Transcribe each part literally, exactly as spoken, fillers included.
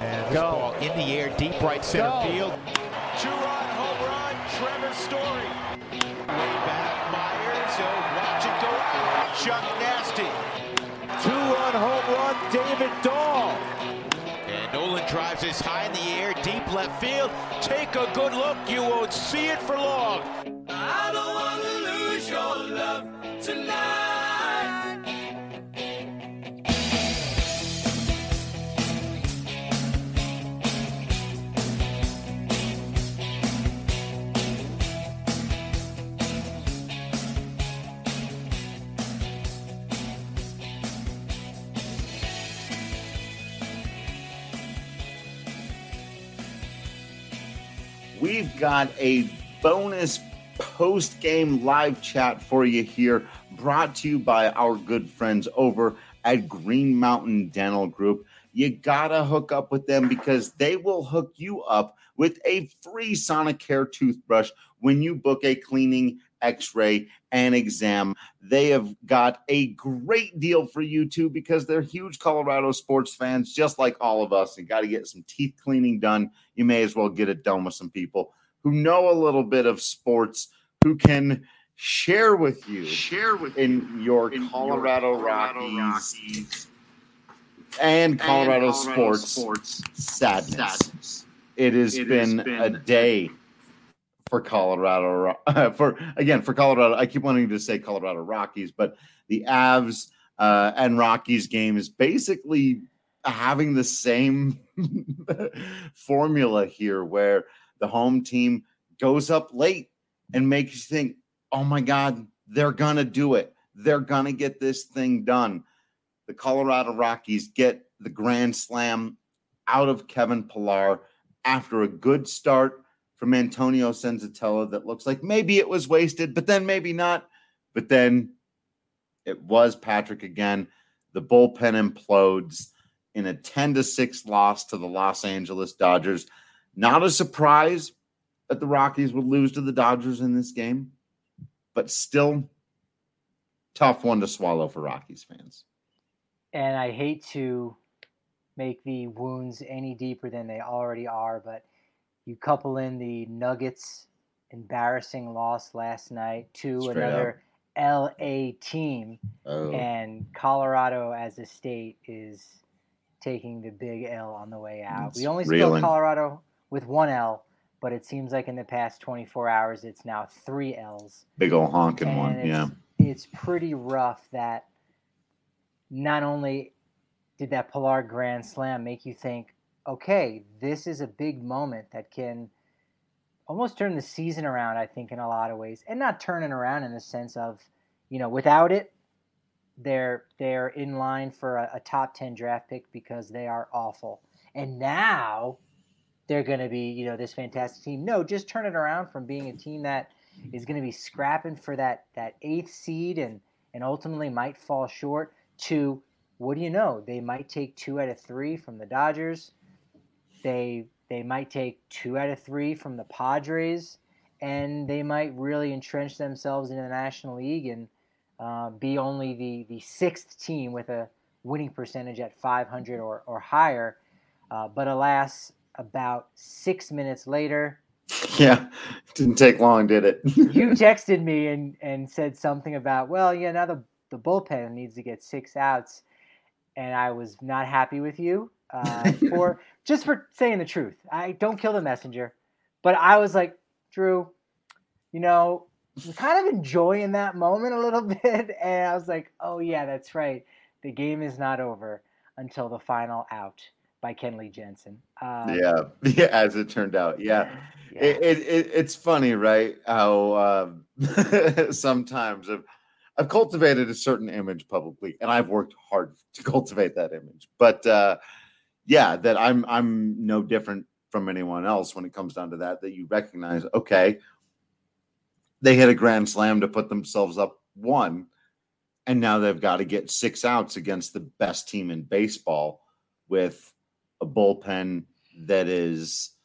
And this Go. ball in the air, deep right center Go. field. Two-run home run, Trevor Story. Way back, Myers. He'll watch it go out. Chuck Nasty. Two-run home run, David Dahl. And Nolan drives this high in the air, deep left field. Take a good look. You won't see it for long. I don't want to lose your love tonight. We've got a bonus post-game live chat for you here, brought to you by our good friends over at Green Mountain Dental Group. You gotta hook up with them because they will hook you up with a free Sonicare toothbrush when you book a cleaning, x-ray, and exam. They have got a great deal for you too because they're huge Colorado sports fans, just like all of us. You got to get some teeth cleaning done. You may as well get it done with some people who know a little bit of sports, who can share with you, share with in your in Colorado, your Colorado Rockies, Rockies and Colorado, and Colorado sports, sports sadness. sadness. It has it been, been a day for Colorado, uh, for again for Colorado. I keep wanting to say Colorado Rockies, but the Avs uh, and Rockies game is basically having the same formula here, where the home team goes up late and makes you think, "Oh my God, they're gonna do it. They're gonna get this thing done." The Colorado Rockies get the grand slam out of Kevin Pillar after a good start from Antonio Senzatella that looks like maybe it was wasted, but then maybe not. But then it was Patrick again. The bullpen implodes in a ten to six loss to the Los Angeles Dodgers. Not a surprise that the Rockies would lose to the Dodgers in this game, but still tough one to swallow for Rockies fans. And I hate to make the wounds any deeper than they already are, but you couple in the Nuggets' embarrassing loss last night to Straight another up. L A team, oh. and Colorado as a state is taking the big L on the way out. It's we only spelled Colorado with one L, but it seems like in the past twenty-four hours, it's now three L's. Big old honking and one, it's, yeah. It's pretty rough that not only did that Pillar grand slam make you think, okay, this is a big moment that can almost turn the season around, I think, in a lot of ways. And not turn it around in the sense of, you know, without it, they're they're in line for a, a top ten draft pick because they are awful. And now they're going to be, you know, this fantastic team. No, just turn it around from being a team that is going to be scrapping for that, that eighth seed and, and ultimately might fall short to, what do you know, they might take two out of three from the Dodgers. They they might take two out of three from the Padres, and they might really entrench themselves in the National League and uh, be only the, the sixth team with a winning percentage at five hundred or, or higher. Uh, but alas, about six minutes later. Yeah, didn't take long, did it? You texted me and, and said something about, well, yeah, now the, the bullpen needs to get six outs. And I was not happy with you. Uh, for just for saying the truth. I don't kill the messenger, but I was like, Drew, you know, I'm kind of enjoying that moment a little bit, and I was like, oh yeah, that's right. The game is not over until the final out by Kenley Jensen. Um, yeah, yeah, as it turned out, yeah. yeah. It, it, it it's funny, right? How um, sometimes I've, I've cultivated a certain image publicly, and I've worked hard to cultivate that image, but. Uh, Yeah, that I'm I'm no different from anyone else when it comes down to that, that you recognize, okay, they hit a grand slam to put themselves up one, and now they've got to get six outs against the best team in baseball with a bullpen that is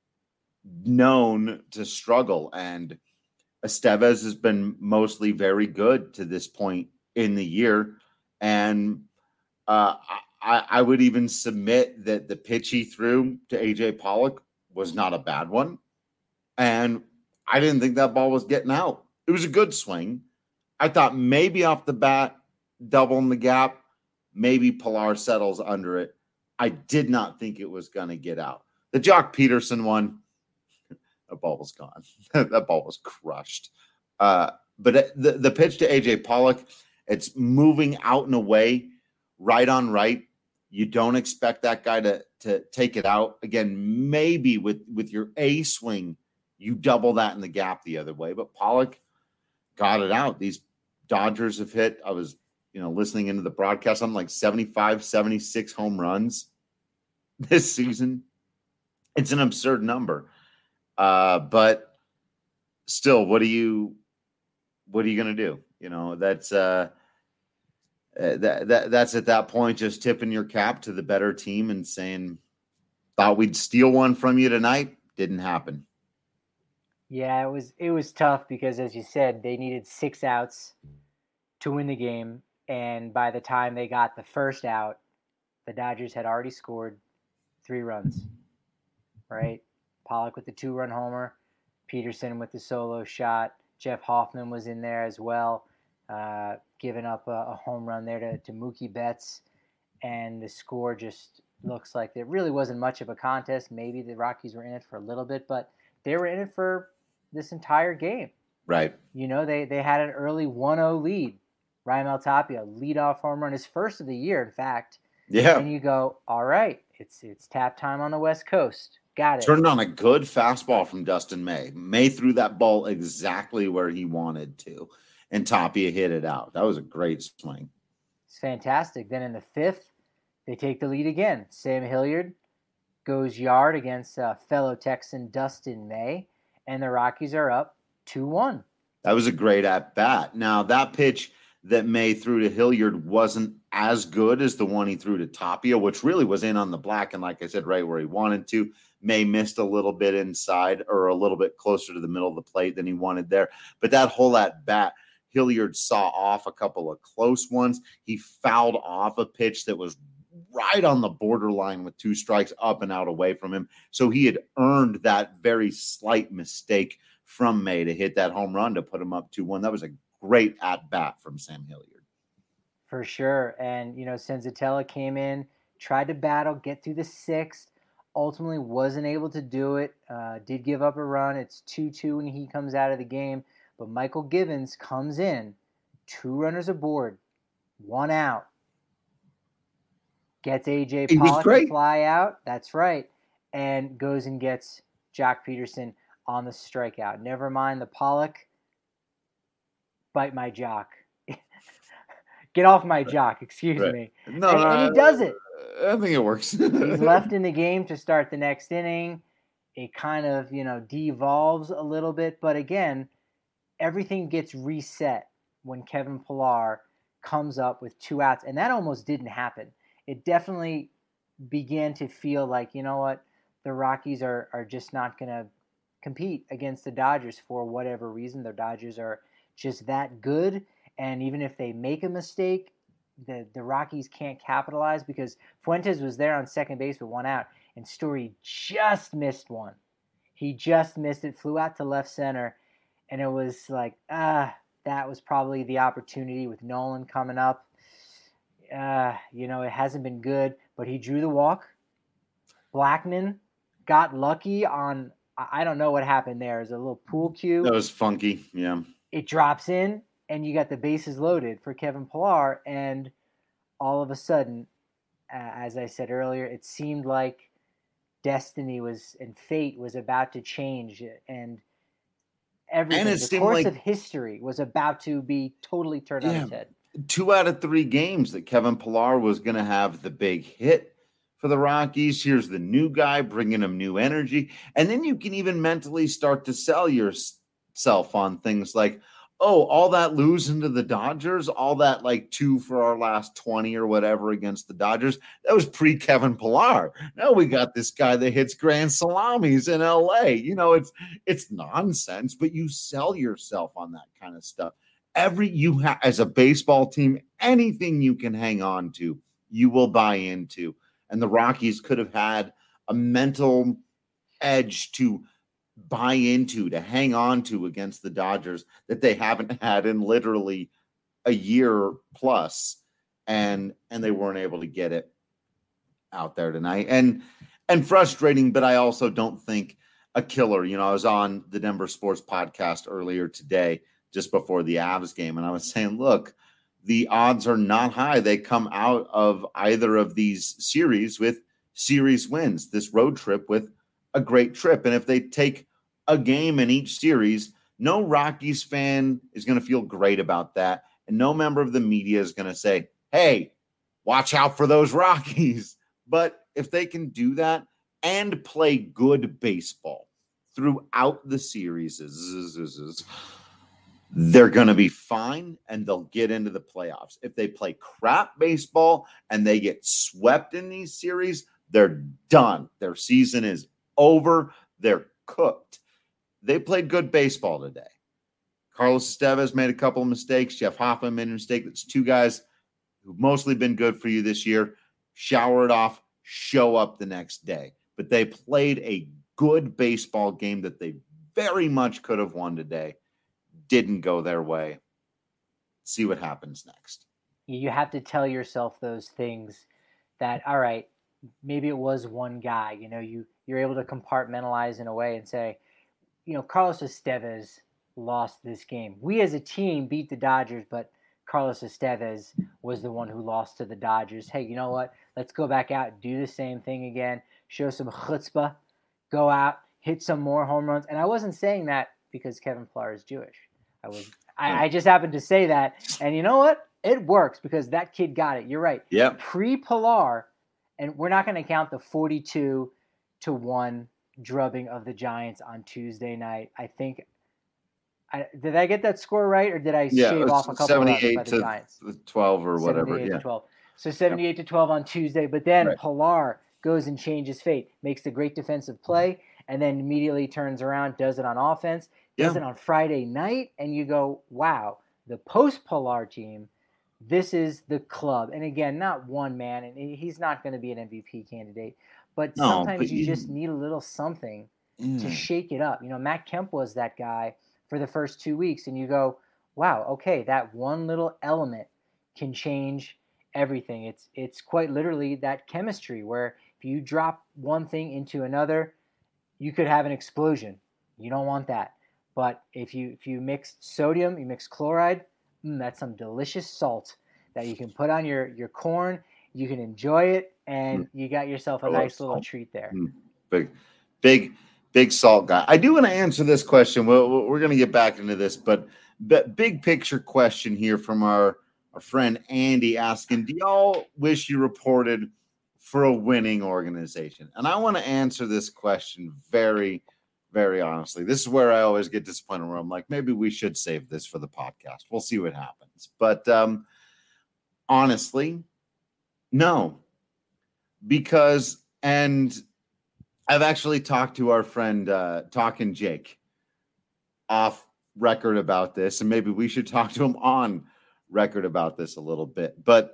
known to struggle. And Estevez has been mostly very good to this point in the year. And uh, I, I would even submit that the pitch he threw to A J Pollock was not a bad one. And I didn't think that ball was getting out. It was a good swing. I thought maybe off the bat, doubling the gap, maybe Pilar settles under it. I did not think it was going to get out. The Jock Peterson one, that ball was gone. That ball was crushed. Uh, but the, the pitch to A J Pollock, it's moving out and away, right on right. You don't expect that guy to, to take it out. Again, maybe with, with your A swing, you double that in the gap the other way. But Pollock got it out. These Dodgers have hit, I was you know, listening into the broadcast, I'm like seventy-five, seventy-six home runs this season. It's an absurd number. Uh, but still, what are you, what are you going to do? You know, that's, uh, that, that, that's at that point, just tipping your cap to the better team and saying, thought we'd steal one from you tonight. Didn't happen. Yeah, it was, it was tough because, as you said, they needed six outs to win the game. And by the time they got the first out, the Dodgers had already scored three runs, right? Pollock with the two-run homer, Peterson with the solo shot, Jeff Hoffman was in there as well, uh, giving up a, a home run there to, to Mookie Betts. And the score just looks like there really wasn't much of a contest. Maybe the Rockies were in it for a little bit, but they were in it for this entire game. Right. You know, they, they had an early one oh lead. Raimel Tapia, leadoff home run, his first of the year, in fact. Yeah. And you go, all right, it's it's tap time on the West Coast. Got it. Turned on a good fastball from Dustin May. May threw that ball exactly where he wanted to, and Tapia hit it out. That was a great swing. It's fantastic. Then in the fifth, they take the lead again. Sam Hilliard goes yard against uh, fellow Texan Dustin May, and the Rockies are up two one. That was a great at-bat. Now, that pitch that May threw to Hilliard wasn't as good as the one he threw to Tapia, which really was in on the black, and like I said, right where he wanted to. May missed a little bit inside or a little bit closer to the middle of the plate than he wanted there. But that whole at-bat, Hilliard saw off a couple of close ones. He fouled off a pitch that was right on the borderline with two strikes up and out away from him. So he had earned that very slight mistake from May to hit that home run to put him up two one. That was a great at-bat from Sam Hilliard. For sure. And, you know, Senzatella came in, tried to battle, get through the sixth, ultimately wasn't able to do it, uh, did give up a run. It's two two when he comes out of the game. But Michael Givens comes in, two runners aboard, one out. Gets A J Pollock to fly out. That's right. And goes and gets Jock Peterson on the strikeout. Never mind the Pollock. Bite my jock. Get off my jock, excuse right. me. No, and, no, and he does it. I think it works. He's left in the game to start the next inning. It kind of, you know, devolves a little bit. But again, everything gets reset when Kevin Pillar comes up with two outs. And that almost didn't happen. It definitely began to feel like, you know what, the Rockies are, are just not going to compete against the Dodgers for whatever reason. The Dodgers are just that good. And even if they make a mistake, the, the Rockies can't capitalize because Fuentes was there on second base with one out, and Story just missed one. He just missed it, flew out to left center, and it was like, ah, that was probably the opportunity with Nolan coming up. Uh, you know, it hasn't been good, but he drew the walk. Blackmon got lucky on, I don't know what happened there. It was a little pool cue. That was funky, yeah. It drops in, and you got the bases loaded for Kevin Pillar, and all of a sudden, uh, as I said earlier, it seemed like destiny was and fate was about to change, and everything, and it the course like, of history was about to be totally turned yeah, on its head. Two out of three games that Kevin Pillar was going to have the big hit for the Rockies. Here's the new guy bringing them new energy, and then you can even mentally start to sell yourself on things like, oh, all that losing to the Dodgers, all that like two for our last twenty or whatever against the Dodgers, that was pre-Kevin Pillar. Now we got this guy that hits grand salamis in L A. You know, it's it's nonsense, but you sell yourself on that kind of stuff. Every you have as a baseball team, anything you can hang on to you will buy into. And the Rockies could have had a mental edge to buy into, to hang on to against the Dodgers that they haven't had in literally a year plus. And, and they weren't able to get it out there tonight. And, and frustrating, but I also don't think a killer. You know, I was on the Denver Sports Podcast earlier today, just before the Avs game, and I was saying, look, the odds are not high. They come out of either of these series with series wins, this road trip with a great trip. And if they take a game in each series, no Rockies fan is going to feel great about that. And no member of the media is going to say, hey, watch out for those Rockies. But if they can do that and play good baseball throughout the series, they're going to be fine and they'll get into the playoffs. If they play crap baseball and they get swept in these series, they're done. Their season is over. They're cooked. They played good baseball today. Carlos Estevez made a couple of mistakes. Jeff Hoffman made a mistake. That's two guys who've mostly been good for you this year. Shower it off, show up the next day. But they played a good baseball game that they very much could have won today. Didn't go their way. See what happens next. You have to tell yourself those things that, all right, maybe it was one guy. You know, you, you're able to compartmentalize in a way and say, you know, Carlos Estevez lost this game. We as a team beat the Dodgers, but Carlos Estevez was the one who lost to the Dodgers. Hey, you know what? Let's go back out, do the same thing again, show some chutzpah, go out, hit some more home runs. And I wasn't saying that because Kevin Pillar is Jewish. I was, I, I just happened to say that. And you know what? It works because that kid got it. You're right. Yeah. Pre-Pillar, and we're not going to count the forty-two to one drubbing of the Giants on Tuesday night. I think I, did I get that score right, or did I yeah, shave off a couple seventy-eight by the to Giants? twelve or whatever. seventy-eight Yeah. to twelve. So seventy-eight to twelve on Tuesday, but then Right. Pillar goes and changes fate, makes the great defensive play, and then immediately turns around, does it on offense, does Yeah. it on Friday night, and you go, wow, the post-Pillar team, this is the club. And again, not one man, and he's not going to be an M V P candidate, but No, sometimes but you you- just need a little something Yeah. to shake it up. You know, Matt Kemp was that guy for the first two weeks, and you go, wow, okay, that one little element can change everything. It's it's quite literally that chemistry where if you drop one thing into another, you could have an explosion. You don't want that. But if you if you mix sodium, you mix chloride, mm, that's some delicious salt that you can put on your, your corn. You can enjoy it, and Mm. you got yourself a I love nice little salt. treat there. Mm. Big, big, big salt guy. I do want to answer this question. We're, we're going to get back into this, but, but big picture question here from our, our friend Andy asking, do y'all wish you reported for a winning organization? And I want to answer this question very, very honestly. This is where I always get disappointed, where I'm like, maybe we should save this for the podcast. We'll see what happens. But um, honestly, no. Because, and I've actually talked to our friend, uh, Talking Jake, off record about this, and maybe we should talk to him on record about this a little bit. But,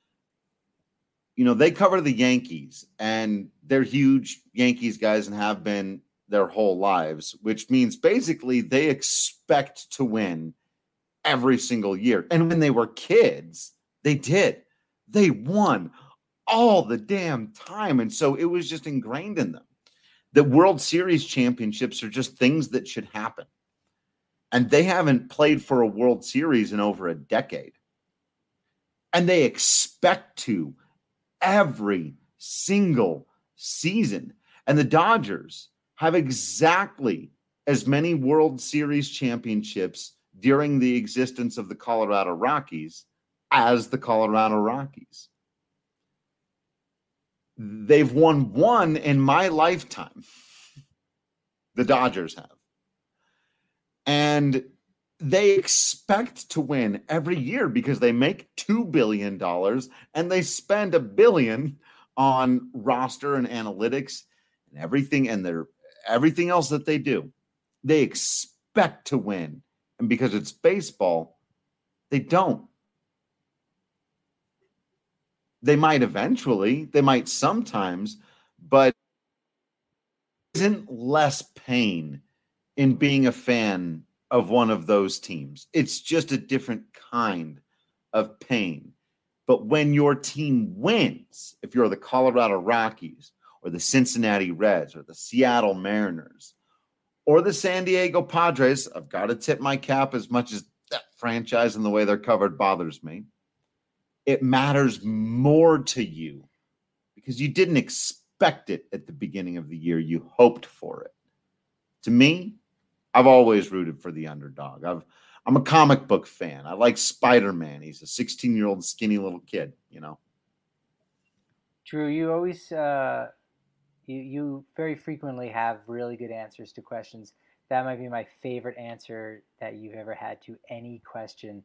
you know, they cover the Yankees, and they're huge Yankees guys and have been their whole lives, which means basically they expect to win every single year. And when they were kids, they did. They won all the damn time. And so it was just ingrained in them. The World Series championships are just things that should happen. And they haven't played for a World Series in over a decade. And they expect to every single season. And the Dodgers have exactly as many World Series championships during the existence of the Colorado Rockies as the Colorado Rockies. They've won one in my lifetime. The Dodgers have. And they expect to win every year because they make two billion dollars and they spend a billion on roster and analytics and everything and their everything else that they do. They expect to win. And because it's baseball, they don't. They might eventually, they might sometimes, but isn't less pain in being a fan of one of those teams. It's just a different kind of pain. But when your team wins, if you're the Colorado Rockies or the Cincinnati Reds or the Seattle Mariners or the San Diego Padres, I've got to tip my cap as much as that franchise and the way they're covered bothers me. It matters more to you because you didn't expect it at the beginning of the year. You hoped for it. To me, I've always rooted for the underdog. I've, I'm a comic book fan. I like Spider-Man. He's a sixteen-year-old skinny little kid, you know. Drew, you always, uh, you, you very frequently have really good answers to questions. That might be my favorite answer that you've ever had to any question.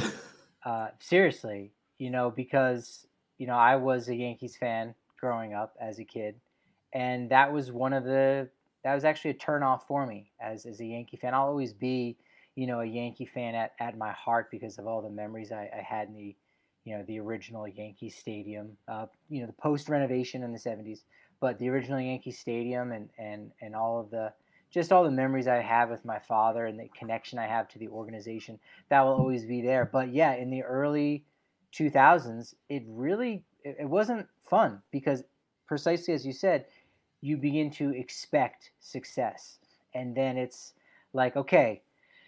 uh, seriously. You know, because, you know, I was a Yankees fan growing up as a kid. And that was one of the, that was actually a turnoff for me as, as a Yankee fan. I'll always be, you know, a Yankee fan at, at my heart because of all the memories I, I had in the, you know, the original Yankee Stadium, uh, you know, the post-renovation in the seventies, but the original Yankee Stadium and, and, and all of the, just all the memories I have with my father and the connection I have to the organization, that will always be there. But yeah, in the early two thousands, it really, it wasn't fun because precisely as you said, you begin to expect success. And then it's like, okay,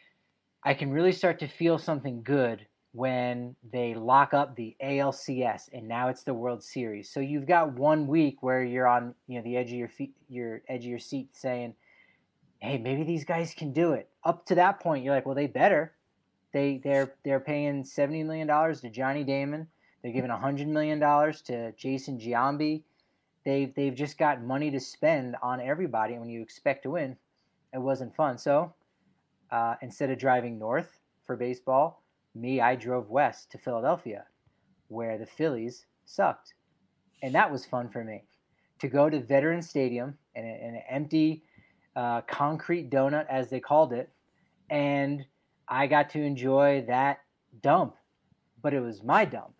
I can really start to feel something good when they lock up the A L C S and now it's the World Series. So you've got one week where you're on, you know, the edge of your feet, your edge of your seat saying, hey, maybe these guys can do it. Up to that point, you're like, well, they better. They they're they're paying seventy million dollars to Johnny Damon. They're giving one hundred million dollars to Jason Giambi. They've they've just got money to spend on everybody. And when you expect to win, it wasn't fun. So uh, instead of driving north for baseball, me I drove west to Philadelphia, where the Phillies sucked, and that was fun for me. To go to Veterans Stadium in, a, in an empty uh, concrete donut, as they called it, and I got to enjoy that dump, but it was my dump.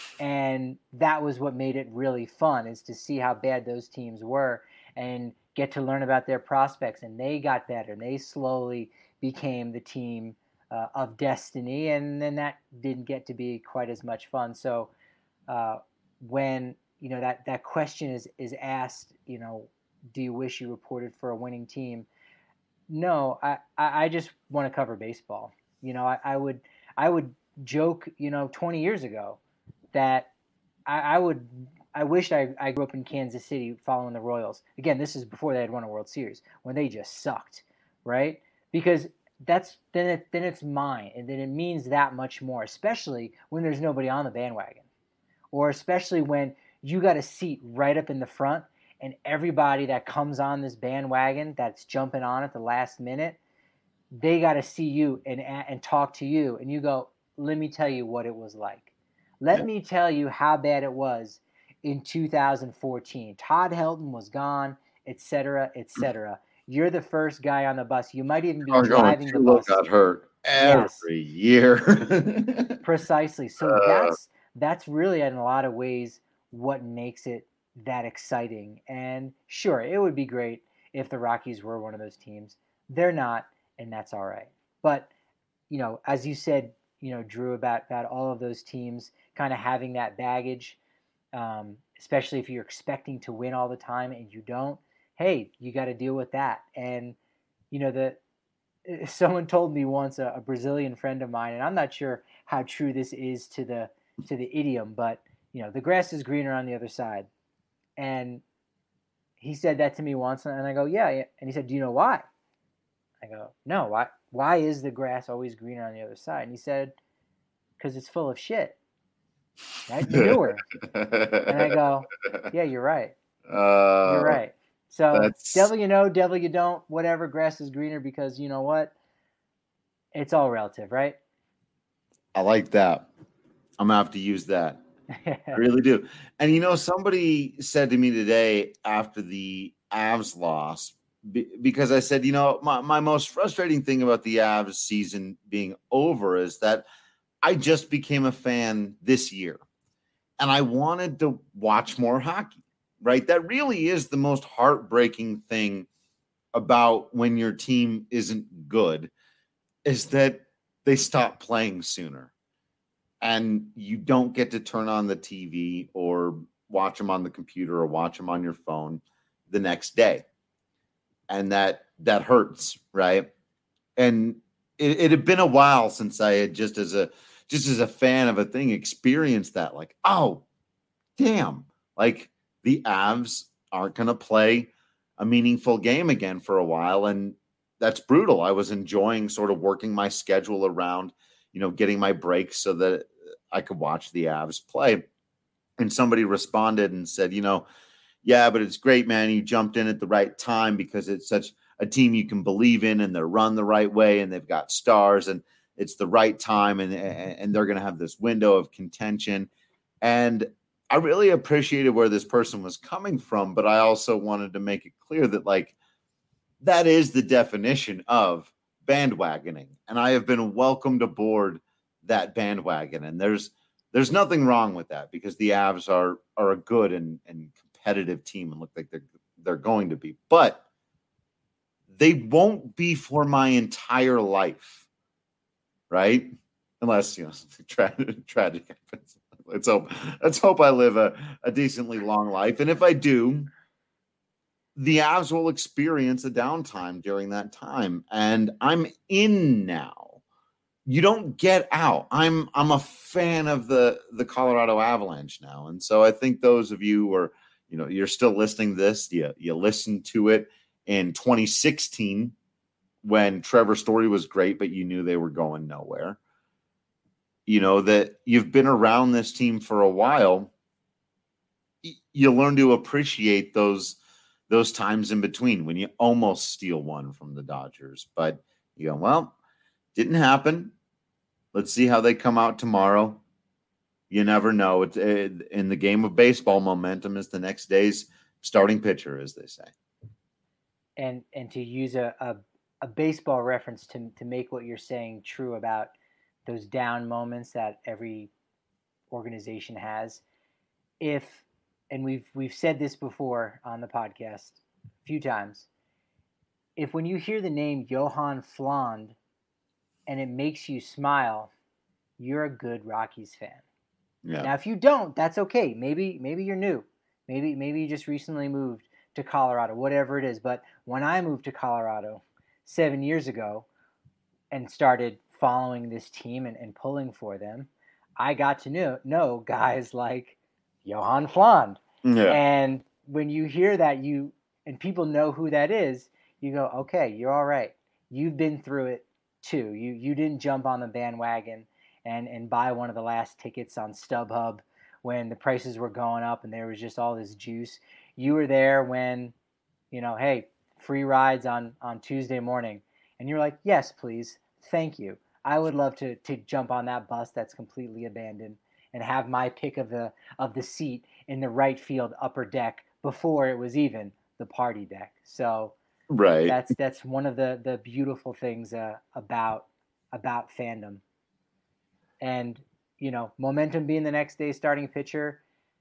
And that was what made it really fun, is to see how bad those teams were and get to learn about their prospects. And they got better, and they slowly became the team uh, of destiny. And then that didn't get to be quite as much fun. So uh, when, you know, that, that question is, is asked, you know, do you wish you reported for a winning team? No, I, I just want to cover baseball. You know, I, I would I would joke, you know, twenty years ago that I, I would I wished I, I grew up in Kansas City following the Royals. Again, this is before they had won a World Series, when they just sucked, right? Because that's then it, then it's mine, and then it means that much more, especially when there's nobody on the bandwagon, or especially when you got a seat right up in the front. And everybody that comes on this bandwagon that's jumping on at the last minute, they got to see you and and talk to you. And you go, let me tell you what it was like. Let yeah. me tell you how bad it was in two thousand fourteen. Todd Helton was gone, et cetera, et cetera. You're the first guy on the bus. You might even be Our driving the bus. Got hurt every yes. year. Precisely. So uh, that's that's really in a lot of ways what makes it that exciting. And sure, it would be great if the Rockies were one of those teams. They're not, and that's all right. But, you know, as you said, you know, Drew, about, about all of those teams kind of having that baggage, um, especially if you're expecting to win all the time and you don't, hey, you got to deal with that. And, you know, the someone told me once, a, a Brazilian friend of mine, and I'm not sure how true this is to the to the idiom, but, you know, the grass is greener on the other side. And he said that to me once, and I go, yeah, yeah. And he said, do you know why? I go, no, why Why is the grass always greener on the other side? And he said, because it's full of shit, right? Manure. And I go, yeah, you're right. Uh, you're right. So that's... devil you know, devil you don't, whatever, grass is greener because you know what? It's all relative, right? I like that. I'm going to have to use that. I really do. And, you know, somebody said to me today after the Avs loss, be, because I said, you know, my, my most frustrating thing about the Avs season being over is that I just became a fan this year. and I wanted to watch more hockey, right? That really is the most heartbreaking thing about when your team isn't good, is that they stop playing sooner and you don't get to turn on the T V or watch them on the computer or watch them on your phone the next day. And that, that hurts. Right. And it, it had been a while since I had just as a, just as a fan of a thing experienced that, like, oh, damn, like the Avs aren't going to play a meaningful game again for a while. And that's brutal. I was enjoying sort of working my schedule around, you know, getting my breaks so that I could watch the Avs play. And somebody responded and said, you know, yeah, but it's great, man. You jumped in at the right time because it's such a team you can believe in and they're run the right way and they've got stars and it's the right time and, and they're going to have this window of contention. And I really appreciated where this person was coming from, but I also wanted to make it clear that, like, that is the definition of bandwagoning. And I have been welcomed aboard that bandwagon. And there's there's nothing wrong with that because the Avs are are a good and, and competitive team and look like they're they're going to be. But they won't be for my entire life, right? Unless, you know, tra- tragic happens. Let's hope, let's hope I live a, a decently long life. And if I do, the Avs will experience a downtime during that time. And I'm in now. You don't get out. I'm I'm a fan of the, the Colorado Avalanche now. And so I think those of you who are, you know, you're still listening to this, you, you listened to it in twenty sixteen when Trevor Story was great, but you knew they were going nowhere. You know, that you've been around this team for a while, you learn to appreciate those those times in between when you almost steal one from the Dodgers. But you go, well, didn't happen. Let's see how they come out tomorrow. You never know. It's it, in the game of baseball, momentum is the next day's starting pitcher, as they say. And and to use a, a, a baseball reference to to make what you're saying true about those down moments that every organization has. If, and we've we've said this before on the podcast a few times, if when you hear the name Johan Fland and it makes you smile, you're a good Rockies fan. Yeah. Now, if you don't, that's okay. Maybe maybe you're new. Maybe maybe you just recently moved to Colorado, whatever it is. But when I moved to Colorado seven years ago and started following this team and, and pulling for them, I got to know, know guys like Johan Fland. Yeah. And when you hear that, you and people know who that is, you go, okay, you're all right. You've been through it too. You you didn't jump on the bandwagon and, and buy one of the last tickets on StubHub when the prices were going up and there was just all this juice. You were there when, you know, hey, free rides on, on Tuesday morning. And you're like, yes, please. Thank you. I would love to to jump on that bus that's completely abandoned and have my pick of the of the seat in the right field upper deck before it was even the party deck. So right, that's that's one of the the beautiful things uh, about about fandom. And you know, momentum being the next day's starting pitcher.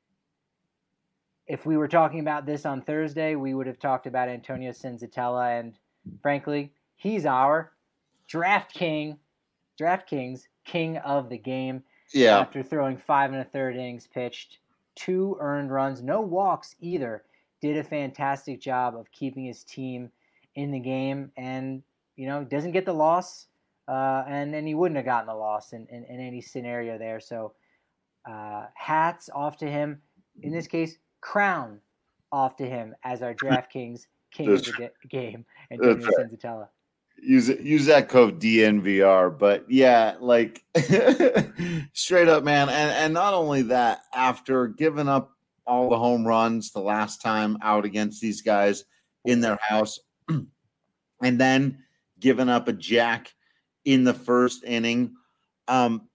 If we were talking about this on Thursday, we would have talked about Antonio Senzatella, and frankly, he's our draft king. DraftKings king of the game. Yeah. After throwing five and a third innings pitched, two earned runs, no walks either, did a fantastic job of keeping his team in the game, and you know doesn't get the loss, uh, and and he wouldn't have gotten the loss in, in, in any scenario there. So uh, hats off to him. In this case, crown off to him as our DraftKings king of the game, Antonio Senzatella. Use it, use that code D N V R. But yeah, like straight up, man. And and not only that, after giving up all the home runs the last time out against these guys in their house, and then giving up a jack in the first inning, um,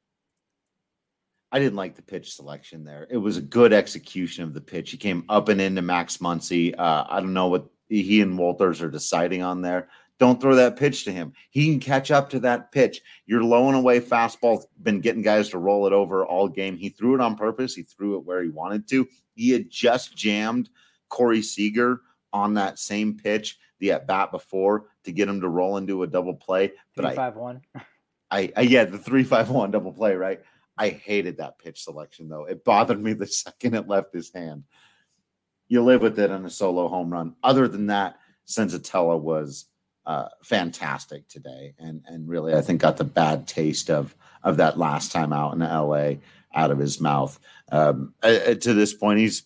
I didn't like the pitch selection there. It was a good execution of the pitch. He came up and into Max Muncy. Uh, I don't know what he and Walters are deciding on there. Don't throw that pitch to him. He can catch up to that pitch. You're low and away fastball, been getting guys to roll it over all game. He threw it on purpose. He threw it where he wanted to. He had just jammed Corey Seager on that same pitch, the at bat before, to get him to roll into a double play. But three five one. I, I, yeah, the three five one double play, right? I hated that pitch selection, though. It bothered me the second it left his hand. You live with it on a solo home run. Other than that, Senzatella was uh, fantastic today, and and really, I think got the bad taste of of that last time out in L A out of his mouth. Um, uh, to this point, he's,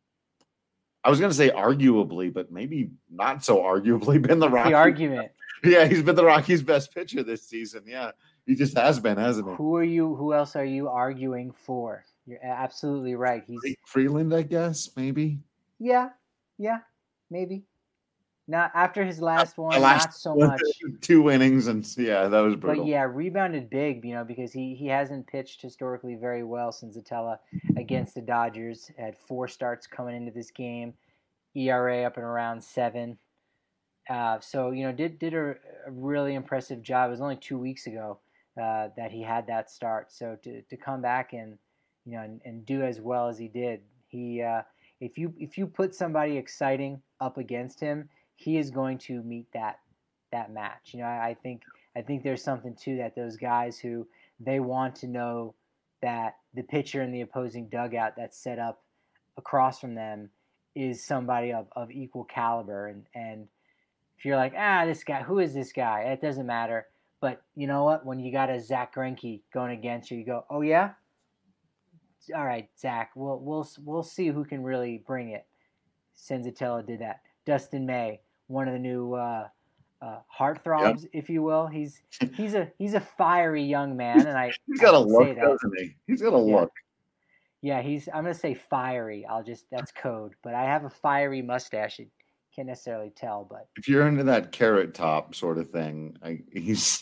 I was going to say arguably, but maybe not so arguably, been the Rockies. The argument. Yeah, he's been the Rockies' best pitcher this season. Yeah, he just has been, hasn't he? Who are you? Who else are you arguing for? You're absolutely right. He's Freeland, I guess, maybe. Yeah, yeah, maybe. Not after his last one, last not so much. Two innings, and yeah, that was brutal. But yeah, rebounded big, you know, because he, he hasn't pitched historically very well since Senzatella against the Dodgers. Had four starts coming into this game, E R A up and around seven. Uh, so, you know, did did a, a really impressive job. It was only two weeks ago uh, that he had that start. So to, to come back and, you know, and, and do as well as he did, he uh, if you if you put somebody exciting up against him, he is going to meet that that match. You know, I, I think I think there's something to that. Those guys who they want to know that the pitcher in the opposing dugout that's set up across from them is somebody of, of equal caliber. And, and if you're like, ah, this guy, who is this guy? It doesn't matter. But you know what? When you got a Zach Greinke going against you, you go, oh yeah, all right, Zach, we'll we'll we'll see who can really bring it. Senzatella did that. Dustin May, one of the new uh, uh, heartthrobs, yep. if you will. He's he's a he's a fiery young man, and I he's got I a look, doesn't he? He's got a yeah. look. Yeah, he's. I'm gonna say fiery. I'll just that's code, but I have a fiery mustache. You can't necessarily tell, but if you're into that carrot top sort of thing, I, he's.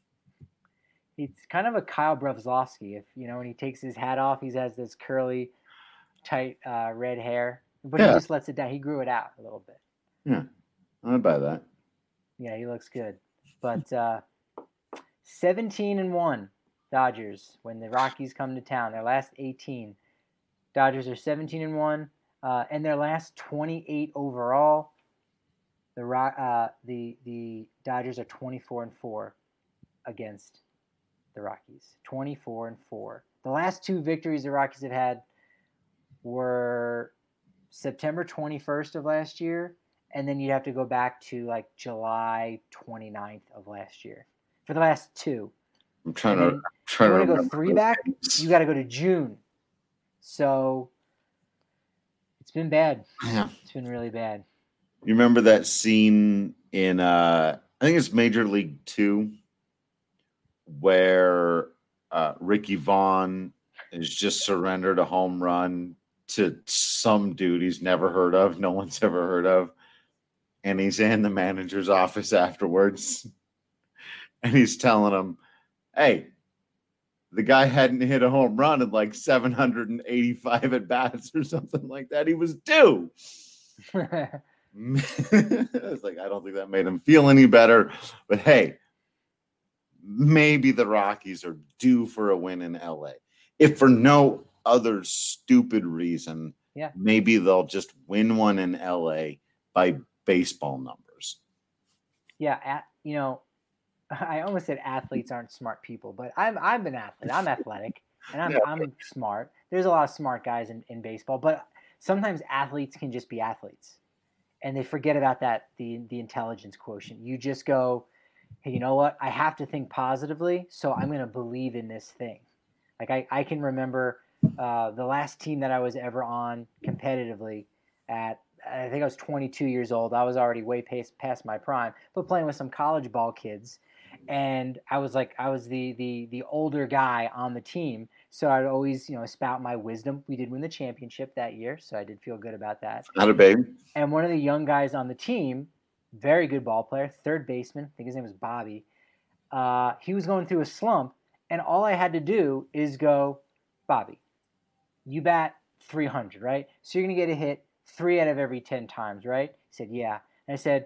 He's kind of a Kyle Broflovsky. If you know, when he takes his hat off, he has this curly, tight uh, red hair, but yeah. he just lets it down. He grew it out a little bit. Yeah, I'd buy that. Yeah, he looks good. But uh, seventeen and one Dodgers when the Rockies come to town. Their last eighteen, Dodgers are seventeen and one, uh, and their last twenty-eight overall. The uh, the the Dodgers are twenty-four and four against the Rockies. twenty-four and four. The last two victories the Rockies have had were September twenty-first of last year, and then you'd have to go back to like July twenty-ninth of last year for the last two. I'm trying to. I'm trying you to want to go three back? Things. You got to go to June. So it's been bad. Yeah, it's been really bad. You remember that scene in? Uh, I think it's Major League Two, where uh, Ricky Vaughn is just surrendered a home run to some dude he's never heard of, no one's ever heard of, and he's in the manager's office afterwards, and he's telling him, hey, the guy hadn't hit a home run in like seven hundred eighty-five at-bats or something like that. He was due. I was like, I don't think that made him feel any better, but hey, maybe the Rockies are due for a win in L A. If for no other stupid reason, yeah, maybe they'll just win one in L A by baseball numbers. Yeah, at, you know, I almost said athletes aren't smart people, but I'm I'm an athlete. I'm athletic, and I'm yeah. I'm smart. There's a lot of smart guys in, in baseball, but sometimes athletes can just be athletes, and they forget about that the the intelligence quotient. You just go, hey, you know what? I have to think positively, so I'm going to believe in this thing. Like I, I can remember uh, the last team that I was ever on competitively at, I think I was twenty-two years old. I was already way past, past my prime, but playing with some college ball kids. And I was like, I was the the the older guy on the team, so I'd always, you know, spout my wisdom. We did win the championship that year, so I did feel good about that. Not a baby. And one of the young guys on the team, very good ball player, third baseman, I think his name was Bobby. Uh, he was going through a slump, and all I had to do is go, Bobby, you bat three hundred, right? So you're going to get a hit three out of every ten times, right? He said, yeah. And I said,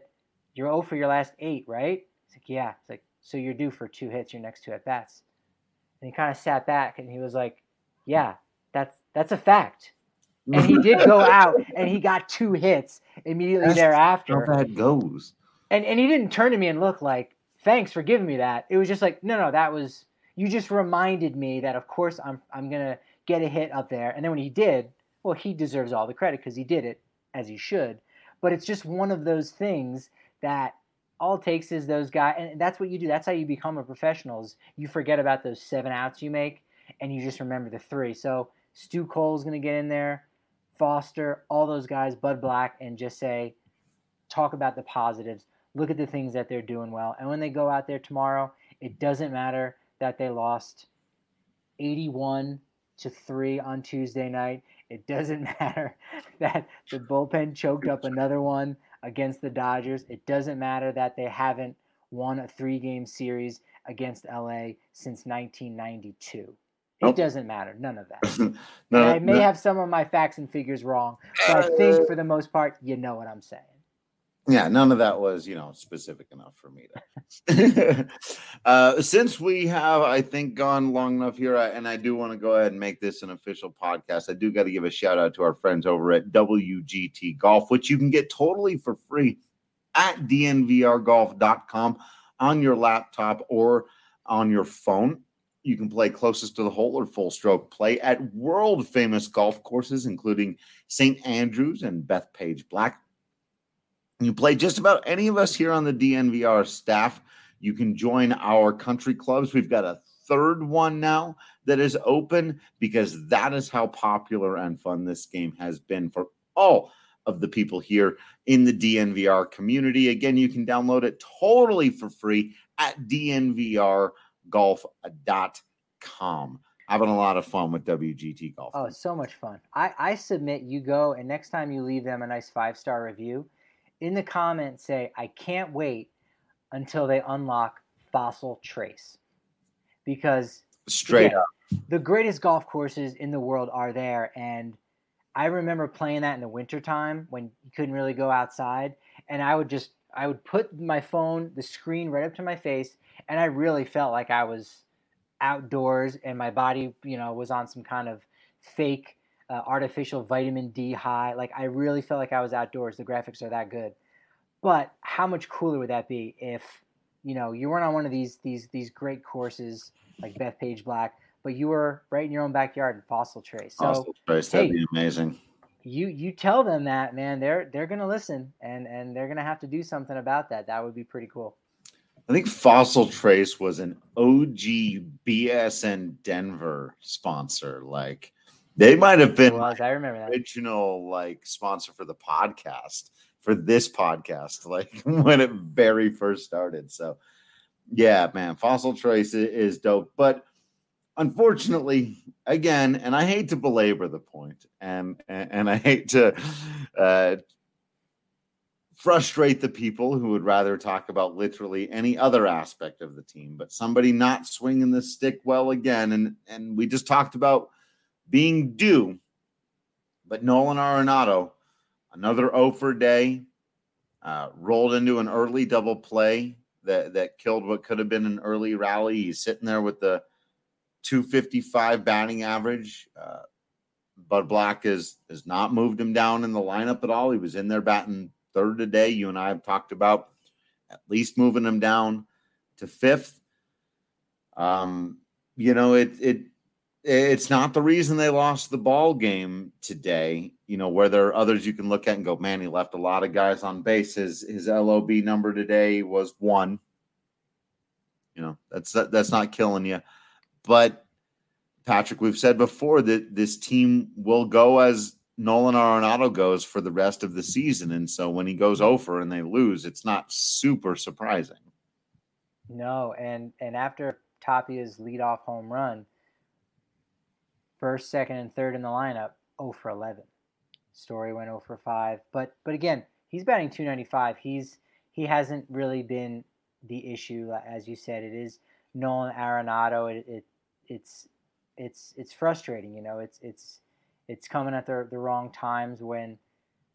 you're oh for your last eight, right? It's like, yeah. It's like, so you're due for two hits your next two at bats. And he kind of sat back and he was like, yeah, that's that's a fact. And he did go out and he got two hits immediately That's thereafter. How that goes. And and he didn't turn to me and look like, thanks for giving me that. It was just like, no, no, that was, you just reminded me that of course I'm I'm gonna get a hit up there. And then when he did, well, he deserves all the credit because he did it as he should. But it's just one of those things that all it takes is those guys, and that's what you do. That's how you become a professional. Is you forget about those seven outs you make, and you just remember the three. So Stu Cole's gonna get in there. Foster, all those guys, Bud Black, and just say, talk about the positives, look at the things that they're doing well. And when they go out there tomorrow, it doesn't matter that they lost eighty-one to three on Tuesday night. It doesn't matter that the bullpen choked up another one against the Dodgers. It doesn't matter that they haven't won a three-game series against L A since nineteen ninety-two. It Nope. doesn't matter. None of that. no, And I may no. have some of my facts and figures wrong, but I think for the most part, you know what I'm saying. Yeah, none of that was, you know, specific enough for me to. uh, since we have, I think, gone long enough here, I, and I do want to go ahead and make this an official podcast, I do got to give a shout out to our friends over at W G T Golf, which you can get totally for free at D N V R golf dot com on your laptop or on your phone. You can play closest to the hole or full stroke play at world famous golf courses, including Saint Andrews and Bethpage Black. You play just about any of us here on the D N V R staff. You can join our country clubs. We've got a third one now that is open because that is how popular and fun this game has been for all of the people here in the D N V R community. Again, you can download it totally for free at D N V R golf dot com. Having a lot of fun with W G T Golf. Oh, so much fun. I, I submit you go, and next time you leave them a nice five-star review, in the comments say, I can't wait until they unlock Fossil Trace. Because Straight again, up. the greatest golf courses in the world are there, and I remember playing that in the wintertime when you couldn't really go outside, and I would just I would put my phone, the screen right up to my face, and I really felt like I was outdoors and my body, you know, was on some kind of fake uh, artificial vitamin D high. Like I really felt like I was outdoors. The graphics are that good. But how much cooler would that be if, you know, you weren't on one of these these these great courses like Bethpage Black, but you were right in your own backyard in Fossil Trace. So Fossil Trace, that'd hey, be amazing. You you tell them that, man, they're they're gonna listen and and they're gonna have to do something about that. That would be pretty cool. I think Fossil Trace was an O G B S N Denver sponsor. Like they might have been It was, I remember that. original like sponsor for the podcast, for this podcast, like when it very first started. So yeah, man, Fossil Trace is dope. But unfortunately, again, and I hate to belabor the point, and and, and I hate to uh, frustrate the people who would rather talk about literally any other aspect of the team, but somebody not swinging the stick well again, and and we just talked about being due, but Nolan Arenado, another oh for day, uh, rolled into an early double play that that killed what could have been an early rally. He's sitting there with the two fifty-five batting average. Uh, Bud Black has has not moved him down in the lineup at all. He was in there batting third today. You and I have talked about at least moving him down to fifth. Um, you know, it it it's not the reason they lost the ball game today. You know, where there are others you can look at and go, man, he left a lot of guys on base. His his L O B number today was one. You know, that's that, that's not killing you. But Patrick, we've said before that this team will go as Nolan Arenado goes for the rest of the season. And so when he goes over and they lose, it's not super surprising. No, and and after Tapia's leadoff home run, first, second, and third in the lineup, oh for eleven. Story went oh for five. But but again, he's batting two ninety-five. He's he hasn't really been the issue, as you said. It is Nolan Arenado. It, it it's it's it's frustrating, you know. It's it's it's coming at the the wrong times when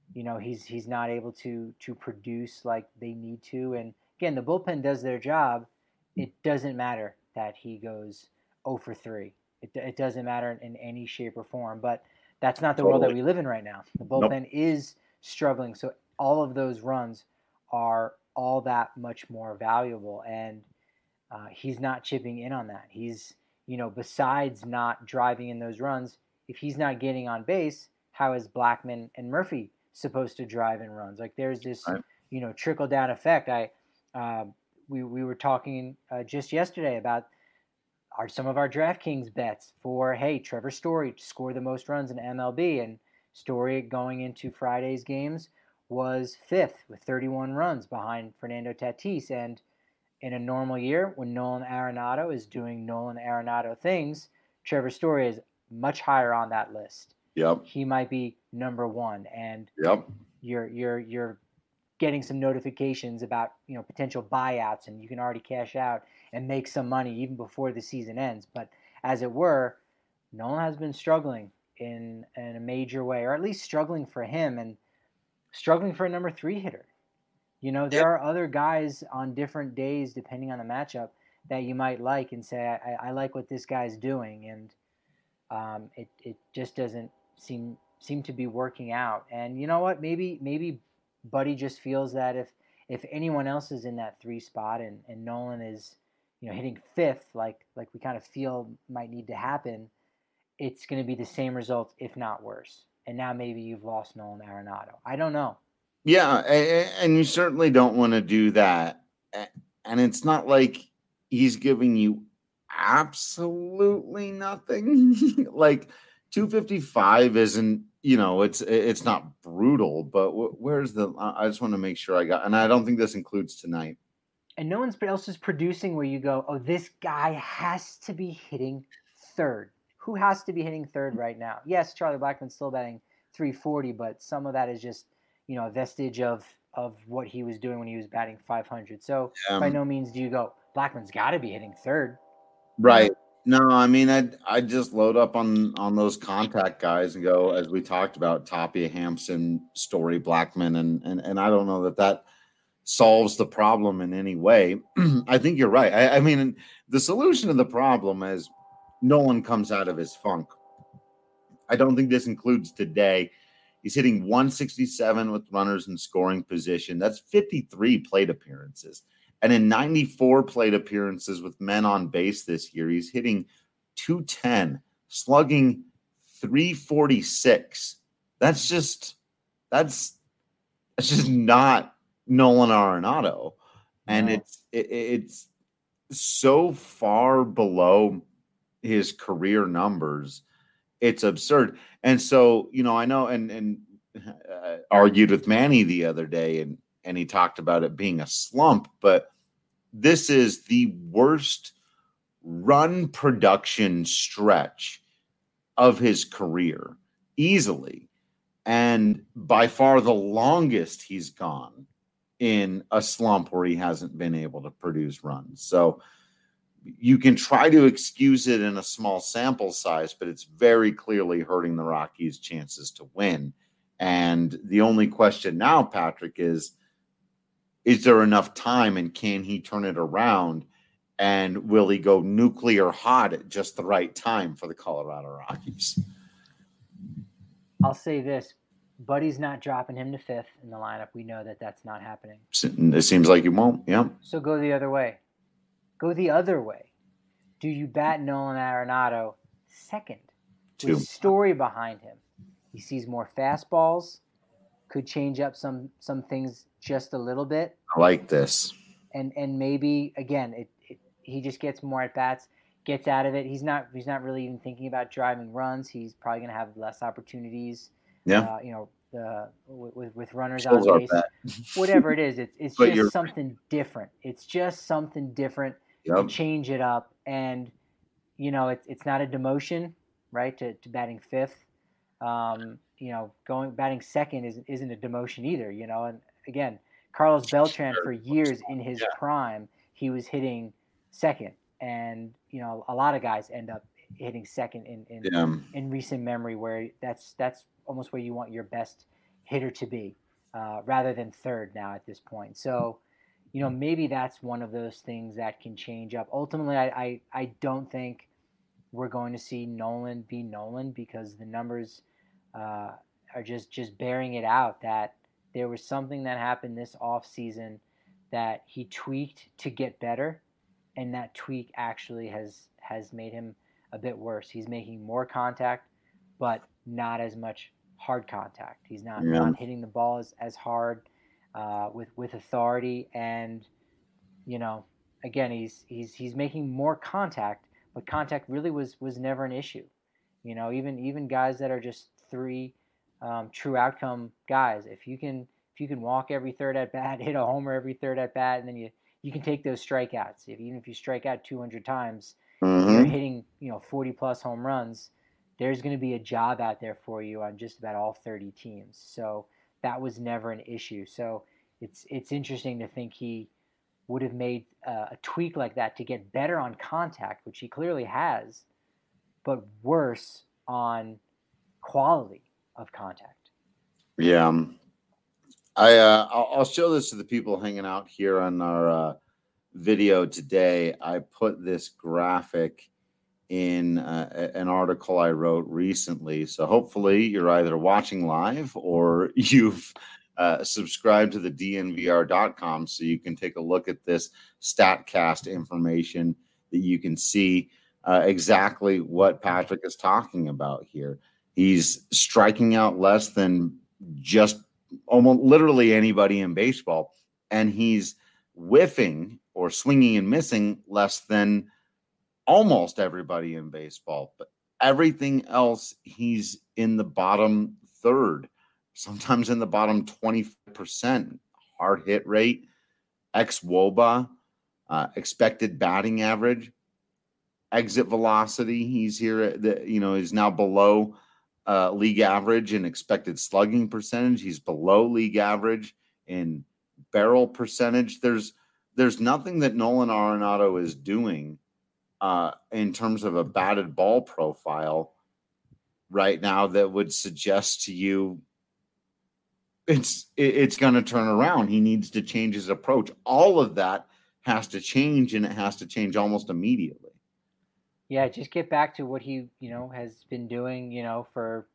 you know, he's he's not able to to produce like they need to. And again, the bullpen does their job. It doesn't matter that he goes oh for three. It, it doesn't matter in any shape or form. But that's not the totally. world that we live in right now. The bullpen nope. is struggling. So all of those runs are all that much more valuable. And uh, he's not chipping in on that. He's, you know, besides not driving in those runs, if he's not getting on base, how is Blackmon and Murphy supposed to drive in runs? Like there's this, right. you know, trickle down effect. I, uh, we we were talking uh, just yesterday about our some of our DraftKings bets for hey Trevor Story to score the most runs in M L B, and Story going into Friday's games was fifth with thirty-one runs behind Fernando Tatis. And in a normal year, when Nolan Arenado is doing Nolan Arenado things, Trevor Story is much higher on that list. Yep. He might be number one, and yep. you're you're you're getting some notifications about, you know, potential buyouts, and you can already cash out and make some money even before the season ends. But as it were, Nolan has been struggling in in a major way, or at least struggling for him and struggling for a number three hitter. You know, there yep. are other guys on different days, depending on the matchup, that you might like and say, I, I like what this guy's doing. And um, it, it just doesn't seem seem to be working out. And you know what? Maybe maybe Buddy just feels that if if anyone else is in that three spot and, and Nolan is, you know, hitting fifth, like like we kind of feel might need to happen, it's going to be the same result, if not worse. And now maybe you've lost Nolan Arenado. I don't know. Yeah, and you certainly don't want to do that. And it's not like he's giving you absolutely nothing. Like two fifty-five isn't, you know, it's it's not brutal, but where's the I just want to make sure I got, and I don't think this includes tonight. And no one else is producing where you go, oh, this guy has to be hitting third. Who has to be hitting third right now? Yes, Charlie Blackmon's still batting three forty, but some of that is just, you know, a vestige of of what he was doing when he was batting five hundred. So um, by no means do you go, Blackmon's got to be hitting third. Right. No, I mean, I I just load up on on those contact guys and go, as we talked about, Tapia, Hampson, Story, Blackmon, and and and I don't know that that solves the problem in any way. I think you're right. I, I mean, the solution to the problem is Nolan comes out of his funk. I don't think this includes today. He's hitting one sixty-seven with runners in scoring position. That's fifty-three plate appearances. And in ninety-four plate appearances with men on base this year, he's hitting two ten, slugging three forty-six. That's just that's that's just not Nolan Arenado. And no. it's it, it's so far below his career numbers. It's absurd. And so, you know, I know and and uh, argued with Manny the other day, and and he talked about it being a slump, but this is the worst run production stretch of his career, easily. And by far the longest he's gone in a slump where he hasn't been able to produce runs. So you can try to excuse it in a small sample size, but it's very clearly hurting the Rockies' chances to win. And the only question now, Patrick, is, is there enough time, and can he turn it around? And will he go nuclear hot at just the right time for the Colorado Rockies? I'll say this. Buddy's not dropping him to fifth in the lineup. We know that that's not happening. It seems like he won't, yeah. So go the other way. Go the other way. Do you bat Nolan Arenado second? Two. With Story behind him. He sees more fastballs, could change up some some things just a little bit. I like this. And and maybe, again, it, it he just gets more at-bats, gets out of it. He's not he's not really even thinking about driving runs. He's probably going to have less opportunities. Yeah. Uh, you know, uh, with, with runners on base. Whatever it is, it's, it's just something different. It's just something different. Yep. To change it up, and you know it's it's not a demotion, right? To, to batting fifth, um, you know, going batting second isn't isn't a demotion either, you know. And again, Carlos Beltran for years in his yeah. prime, he was hitting second, and you know a lot of guys end up hitting second in in, yeah. in recent memory, where that's that's almost where you want your best hitter to be uh, rather than third now at this point. So, you know, maybe that's one of those things that can change up. Ultimately, I, I, I don't think we're going to see Nolan be Nolan because the numbers uh, are just, just bearing it out that there was something that happened this offseason that he tweaked to get better, and that tweak actually has, has made him a bit worse. He's making more contact, but not as much hard contact. He's not, Yeah. not hitting the ball as, as hard uh, with, with authority. And, you know, again, he's, he's, he's making more contact, but contact really was, was never an issue. You know, even, even guys that are just three um, true outcome guys, if you can, if you can walk every third at bat, hit a homer every third at bat, and then you, you can take those strikeouts. If, even if you strike out two hundred times, Mm-hmm. you're hitting, you know, forty plus home runs, there's going to be a job out there for you on just about all thirty teams. So that was never an issue. So it's it's interesting to think he would have made uh, a tweak like that to get better on contact, which he clearly has, but worse on quality of contact. Yeah. I, uh, I'll, I'll show this to the people hanging out here on our uh, video today. I put this graphic in uh, an article I wrote recently. So hopefully you're either watching live or you've uh, subscribed to the D N V R dot com so you can take a look at this StatCast information that you can see uh, exactly what Patrick is talking about here. He's striking out less than just almost literally anybody in baseball, and he's whiffing or swinging and missing less than almost everybody in baseball. But everything else, he's in the bottom third, sometimes in the bottom twenty percent. Hard hit rate, ex-W O B A, uh, expected batting average, exit velocity. He's here at the, you know, is now below uh, league average in expected slugging percentage. He's below league average in barrel percentage. There's there's nothing that Nolan Arenado is doing uh, in terms of a batted ball profile right now that would suggest to you it's it, it's going to turn around. He needs to change his approach. All of that has to change, and it has to change almost immediately. Yeah, just get back to what he, you know, has been doing, you know, for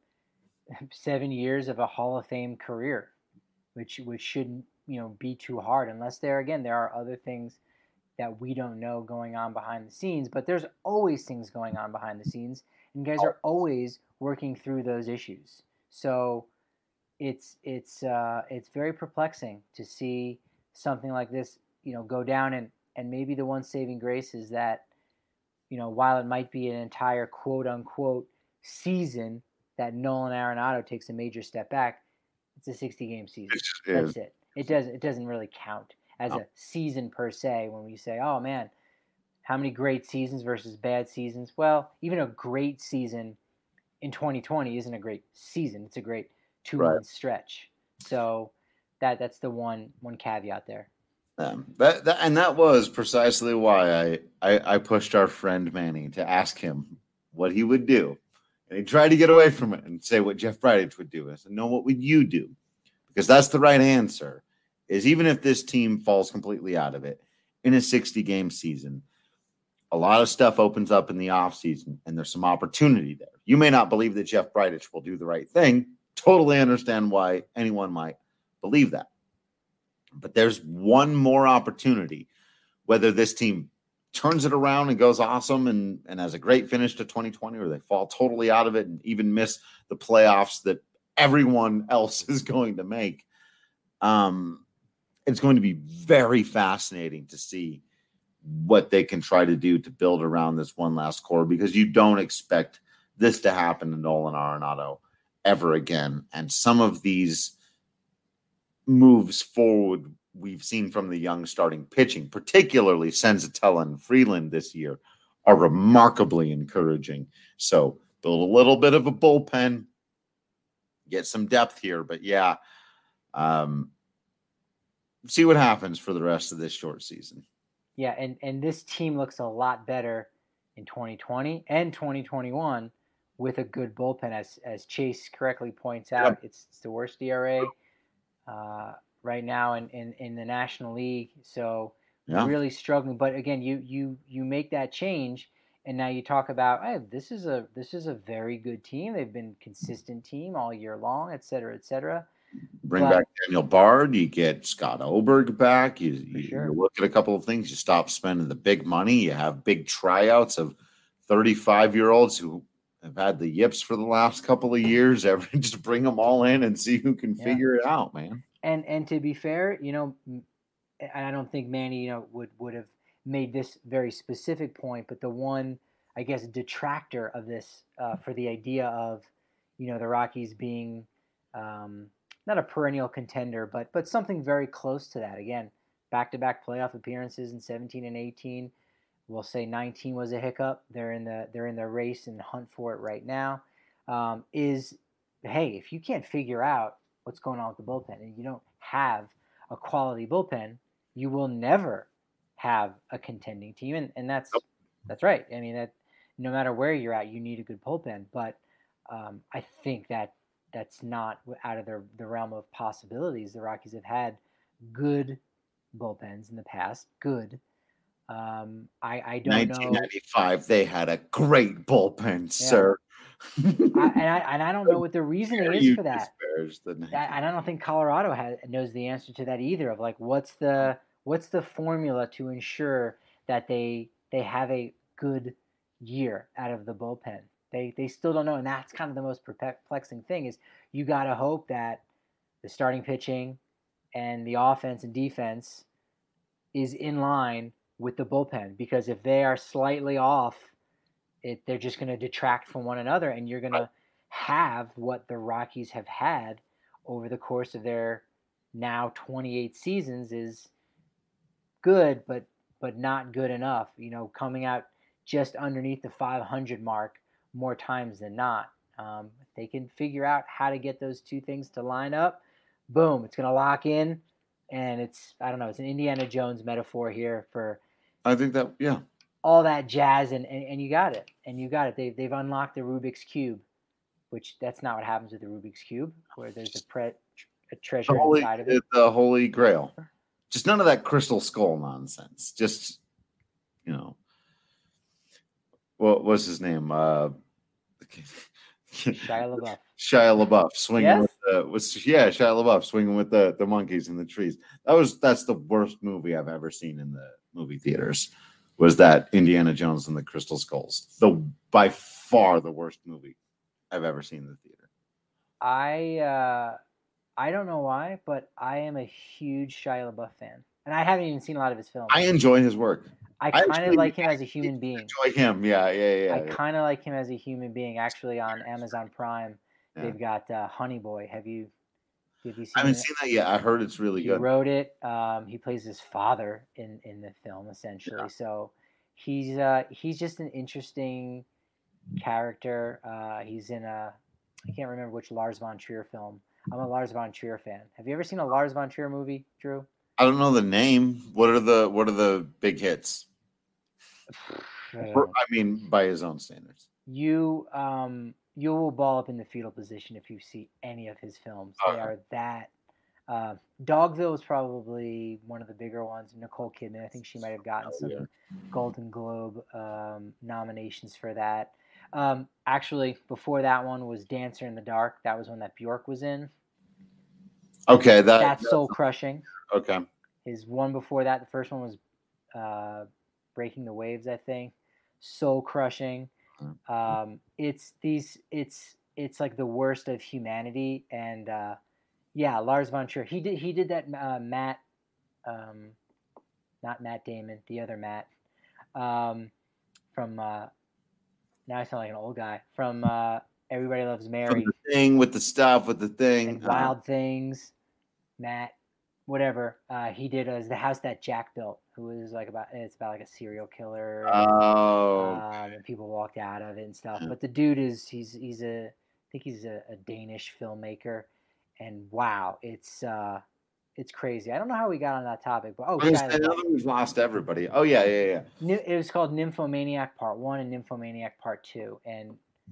seven years of a Hall of Fame career, which which shouldn't, you know, be too hard unless there, again, there are other things that we don't know going on behind the scenes. But there's always things going on behind the scenes, and guys are always working through those issues. So it's it's uh, it's very perplexing to see something like this, you know, go down. And and maybe the one saving grace is that, you know, while it might be an entire quote unquote season that Nolan Arenado takes a major step back, it's a sixty game season. That's it. It doesn't it doesn't really count as a season per se when we say, oh man, how many great seasons versus bad seasons? Well, even a great season in twenty twenty isn't a great season. It's a great two month right. stretch. So that that's the one one caveat there. Um, that, that and that was precisely why I, I I pushed our friend Manny to ask him what he would do, and he tried to get away from it and say what Jeff Bridich would do. I said, no, what would you do? Because that's the right answer. Is even if this team falls completely out of it in a sixty game season, a lot of stuff opens up in the offseason, and there's some opportunity there. You may not believe that Jeff Bridich will do the right thing. Totally understand why anyone might believe that. But there's one more opportunity, whether this team turns it around and goes awesome and, and has a great finish to twenty twenty, or they fall totally out of it and even miss the playoffs that everyone else is going to make. Um, it's going to be very fascinating to see what they can try to do to build around this one last core, because you don't expect this to happen to Nolan Arenado ever again. And some of these moves forward we've seen from the young starting pitching, particularly Senzatella and Freeland this year, are remarkably encouraging. So build a little bit of a bullpen, get some depth here. But yeah, um, see what happens for the rest of this short season. Yeah, and, and this team looks a lot better in twenty twenty and twenty twenty-one with a good bullpen. As as Chase correctly points out, yep. it's, it's the worst E R A uh, right now in, in, in the National League. So yeah. really struggling. But again, you you you make that change, and now you talk about, hey, this is a this is a very good team. They've been a consistent team all year long, et cetera, et cetera. Bring but, back Daniel Bard. You get Scott Oberg back. You, you, sure. you look at a couple of things. You stop spending the big money. You have big tryouts of thirty-five-year-olds who have had the yips for the last couple of years. Every, just bring them all in and see who can yeah. figure it out, man. And and to be fair, you know, and I don't think Manny, you know, would, would have made this very specific point, but the one, I guess, detractor of this uh, for the idea of, you know, the Rockies being um, – not a perennial contender, but but something very close to that. Again, back-to-back playoff appearances in seventeen and eighteen. We'll say nineteen was a hiccup. They're in the they're in the race and hunt for it right now. Um, is hey, if you can't figure out what's going on with the bullpen and you don't have a quality bullpen, you will never have a contending team. And and that's that's right. I mean, that no matter where you're at, you need a good bullpen. But um, I think that. That's not out of their, the realm of possibilities. The Rockies have had good bullpens in the past. Good. Um, I, I don't nineteen ninety-five, know. They had a great bullpen, yeah. sir. I, and, I, and I don't know what the reasoning is for that. I, and I don't think Colorado has, knows the answer to that either. Of like, what's the what's the formula to ensure that they they have a good year out of the bullpen? They they still don't know, and that's kind of the most perplexing thing is you got to hope that the starting pitching and the offense and defense is in line with the bullpen, because if they are slightly off, it they're just going to detract from one another, and you're going to have what the Rockies have had over the course of their now twenty-eight seasons is good, but but not good enough. You know, coming out just underneath the five hundred mark more times than not. Um, if they can figure out how to get those two things to line up, boom, it's going to lock in. And it's, I don't know, it's an Indiana Jones metaphor here for I think that, yeah. all that jazz, and, and, and you got it. And you got it. They've, they've unlocked the Rubik's Cube, which that's not what happens with the Rubik's Cube, where there's a, pre, a treasure the holy, inside of it. The Holy Grail. Just none of that crystal skull nonsense. Just, you know. What was his name? Uh, Shia LaBeouf. Shia LaBeouf swinging yes? with the was yeah Shia LaBeouf swinging with the, the monkeys in the trees. That was that's the worst movie I've ever seen in the movie theaters. Was that Indiana Jones and the Crystal Skulls? The by far the worst movie I've ever seen in the theater. I uh, I don't know why, but I am a huge Shia LaBeouf fan, and I haven't even seen a lot of his films. I enjoy his work. I kind of like him as a human being. Enjoy him, yeah, yeah, yeah. I kind of like him as a human being. Actually, on Amazon Prime, yeah. they've got uh, Honey Boy. Have you? Have you seen? I haven't it? seen that yet. I heard it's really he good. He wrote it. Um, he plays his father in, in the film, essentially. Yeah. So he's uh, he's just an interesting character. Uh, he's in a I can't remember which Lars von Trier film. I'm a Lars von Trier fan. Have you ever seen a Lars von Trier movie, Drew? I don't know the name. What are the What are the big hits? I mean, by his own standards. You um you will ball up in the fetal position if you see any of his films. They okay. are that. Uh, Dogville is probably one of the bigger ones. Nicole Kidman, I think she might have gotten some yeah. Golden Globe um, nominations for that. Um, actually, before that one was Dancer in the Dark. That was one that Bjork was in. Okay, that that's, that's soul crushing. Okay. His one before that, the first one was uh, Breaking the Waves, I think. Soul crushing. Um, it's these. It's it's like the worst of humanity, and uh, yeah, Lars von Trier. He did he did that uh, Matt, um, not Matt Damon, the other Matt, um, from. Uh, now I sound like an old guy from uh, Everybody Loves Mary. From the Thing with the stuff with the thing. And Wild uh, Things, Matt. Whatever uh, he did was The House That Jack Built, who was like about it's about like a serial killer. Oh, um, and people walked out of it and stuff. But the dude is he's he's a I think he's a, a Danish filmmaker, and wow, it's uh, it's crazy. I don't know how we got on that topic, but oh, I know we've lost everybody. Oh yeah, yeah, yeah. It was called Nymphomaniac Part One and Nymphomaniac Part Two, and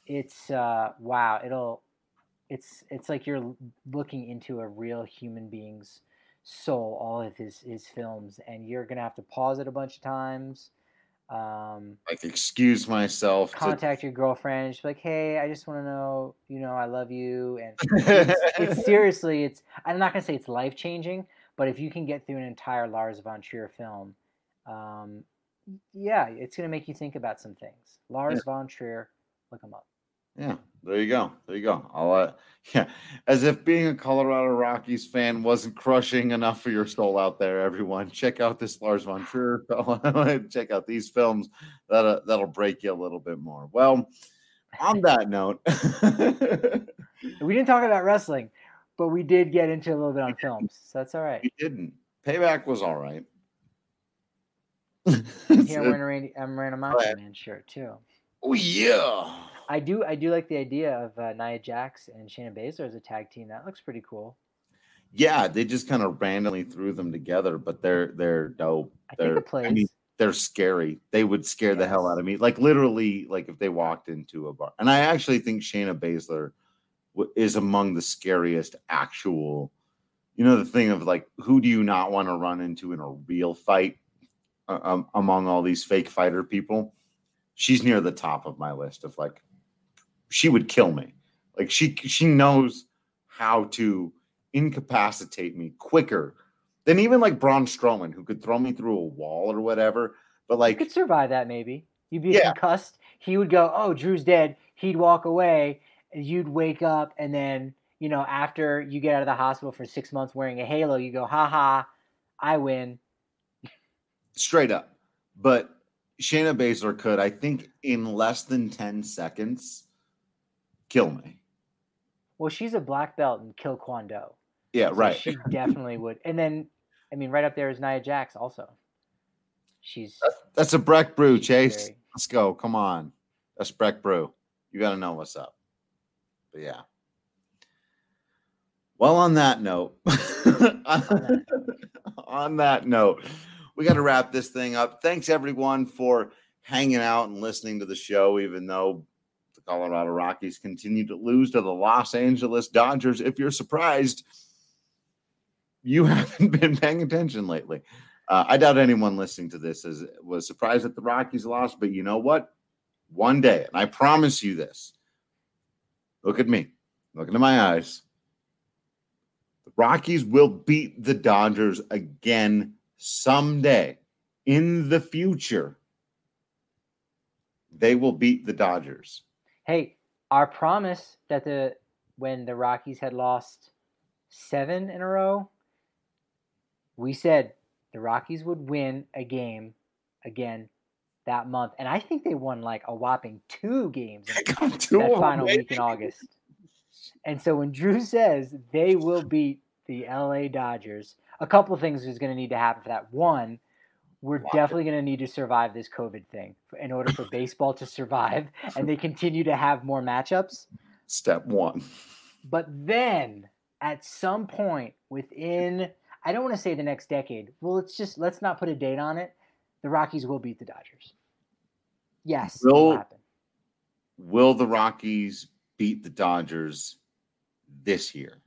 it's uh, wow. It'll it's it's like you're looking into a real human being's soul. All of his his films, and you're gonna have to pause it a bunch of times. Um, Like, excuse myself. contact to... your girlfriend. She's like, "Hey, I just want to know, you know, I love you." And it's, it's seriously, it's. I'm not gonna say it's life changing, but if you can get through an entire Lars von Trier film, um, yeah, it's gonna make you think about some things. Lars yeah. von Trier, look him up. Yeah, there you go. There you go. I'll, uh, yeah, as if being a Colorado Rockies fan wasn't crushing enough for your soul out there, everyone. Check out this Lars von Trier film. Check out these films. That'll, that'll break you a little bit more. Well, on that note. We didn't talk about wrestling, but we did get into a little bit on films. So that's all right. We didn't. Payback was all right. Yeah, I'm wearing a, Randy, I'm wearing a Macho Man shirt, too. Oh, yeah. I do I do like the idea of uh, Nia Jax and Shayna Baszler as a tag team. That looks pretty cool. Yeah, they just kind of randomly threw them together, but they're they're dope. I they're, think it plays. I mean, they're scary. They would scare yes. the hell out of me. Like literally, like if they walked into a bar. And I actually think Shayna Baszler w- is among the scariest actual. You know the thing of like, who do you not want to run into in a real fight uh, um, among all these fake fighter people? She's near the top of my list of like. She would kill me. Like she she knows how to incapacitate me quicker than even like Braun Strowman, who could throw me through a wall or whatever. But like you could survive that maybe. You'd be yeah. concussed. He would go, "Oh, Drew's dead." He'd walk away, and you'd wake up, and then you know after you get out of the hospital for six months wearing a halo, you go, "Ha ha, I win." Straight up. But Shayna Baszler could, I think, in less than ten seconds. Kill me. Well, she's a black belt in Kill Kwon Do. Yeah, so right. She definitely would. And then, I mean, right up there is Nia Jax also. She's That's, that's a Breck Brew, Chase. Scary. Let's go. Come on. That's Breck Brew. You got to know what's up. But yeah. Well, on that note, on that note, we got to wrap this thing up. Thanks, everyone, for hanging out and listening to the show, even though Colorado Rockies continue to lose to the Los Angeles Dodgers. If you're surprised, you haven't been paying attention lately. Uh, I doubt anyone listening to this is, was surprised that the Rockies lost, but you know what? One day, and I promise you this, look at me, look into my eyes. The Rockies will beat the Dodgers again someday in the future. They will beat the Dodgers. Hey, our promise that the when the Rockies had lost seven in a row, we said the Rockies would win a game again that month. And I think they won like a whopping two games in two that final week in August. And so when Drew says they will beat the L A Dodgers, a couple of things is going to need to happen for that. One, we're wow. definitely going to need to survive this COVID thing in order for baseball to survive, and they continue to have more matchups. Step one. But then at some point within, I don't want to say the next decade. Well, let's just, let's not put a date on it. The Rockies will beat the Dodgers. Yes, will, it'll happen. Will the Rockies beat the Dodgers this year?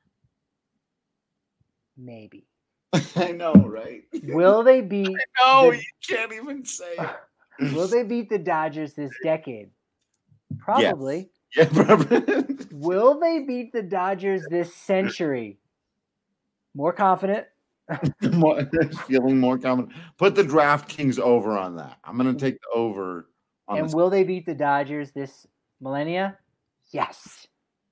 Maybe. I know, right? Will they beat? No, the, you can't even say it. Will they beat the Dodgers this decade? Probably. Yes. Yeah. Will they beat the Dodgers this century? More confident. more, feeling more confident. Put the DraftKings over on that. I'm going to take the over. On and this. Will they beat the Dodgers this millennia? Yes.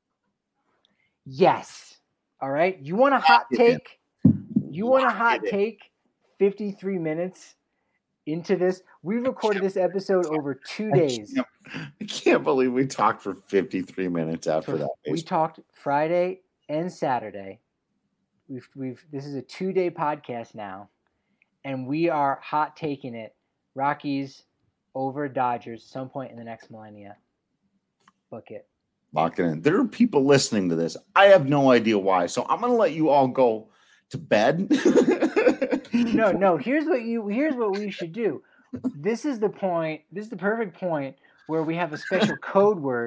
Yes. All right. You want a hot take? You want a hot take fifty-three minutes into this? We recorded this episode over two days. I can't, I can't believe we talked for fifty-three minutes after for, that. We talked Friday and Saturday. We've we've this is a two-day podcast now, and we are hot taking it. Rockies over Dodgers at some point in the next millennia. Book it. Lock it in. There are people listening to this. I have no idea why. So I'm going to let you all go to bed. no, no. Here's what you. Here's what we should do. This is the point. This is the perfect point where we have a special code word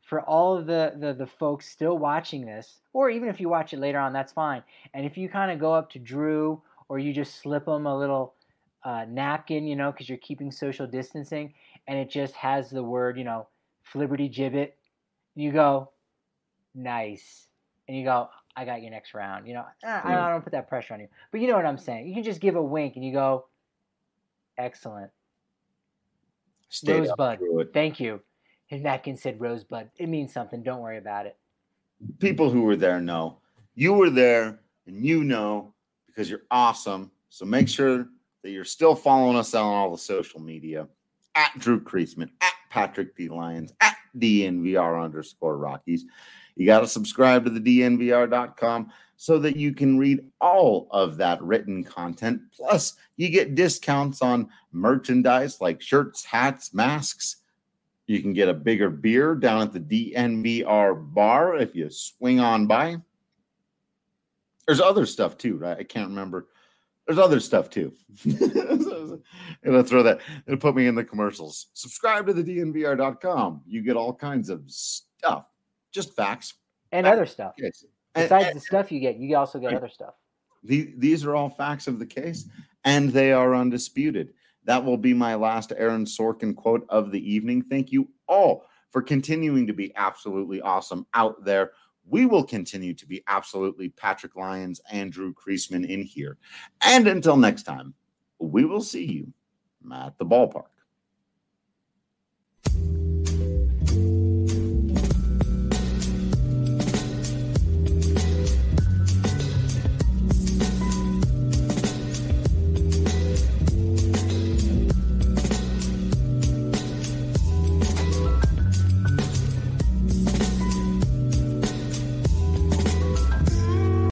for all of the, the, the folks still watching this, or even if you watch it later on, that's fine. And if you kind of go up to Drew or you just slip him a little uh, napkin, you know, because you're keeping social distancing, and it just has the word, you know, Flibberty Gibbet, you go, nice. And you go, I got you next round. You know, I, I don't put that pressure on you. But you know what I'm saying. You can just give a wink and you go, excellent. Stayed Rosebud, thank you. His napkin said Rosebud. It means something. Don't worry about it. People who were there know. You were there, and you know, because you're awesome. So make sure that you're still following us on all the social media. At Drew Creasman, at Patrick D. Lyons, at D N V R underscore Rockies. You got to subscribe to the D N V R dot com so that you can read all of that written content. Plus, you get discounts on merchandise like shirts, hats, masks. You can get a bigger beer down at the D N V R bar if you swing on by. There's other stuff too, right? I can't remember. There's other stuff too. It'll throw that. It'll put me in the commercials. Subscribe to the D N V R dot com. You get all kinds of stuff. Just facts. And facts. Other stuff. Yes. Besides and, the stuff you get, you also get right. other stuff. The, these are all facts of the case, and they are undisputed. That will be my last Aaron Sorkin quote of the evening. Thank you all for continuing to be absolutely awesome out there. We will continue to be absolutely Patrick Lyons and Drew Creasman in here. And until next time, we will see you at the ballpark.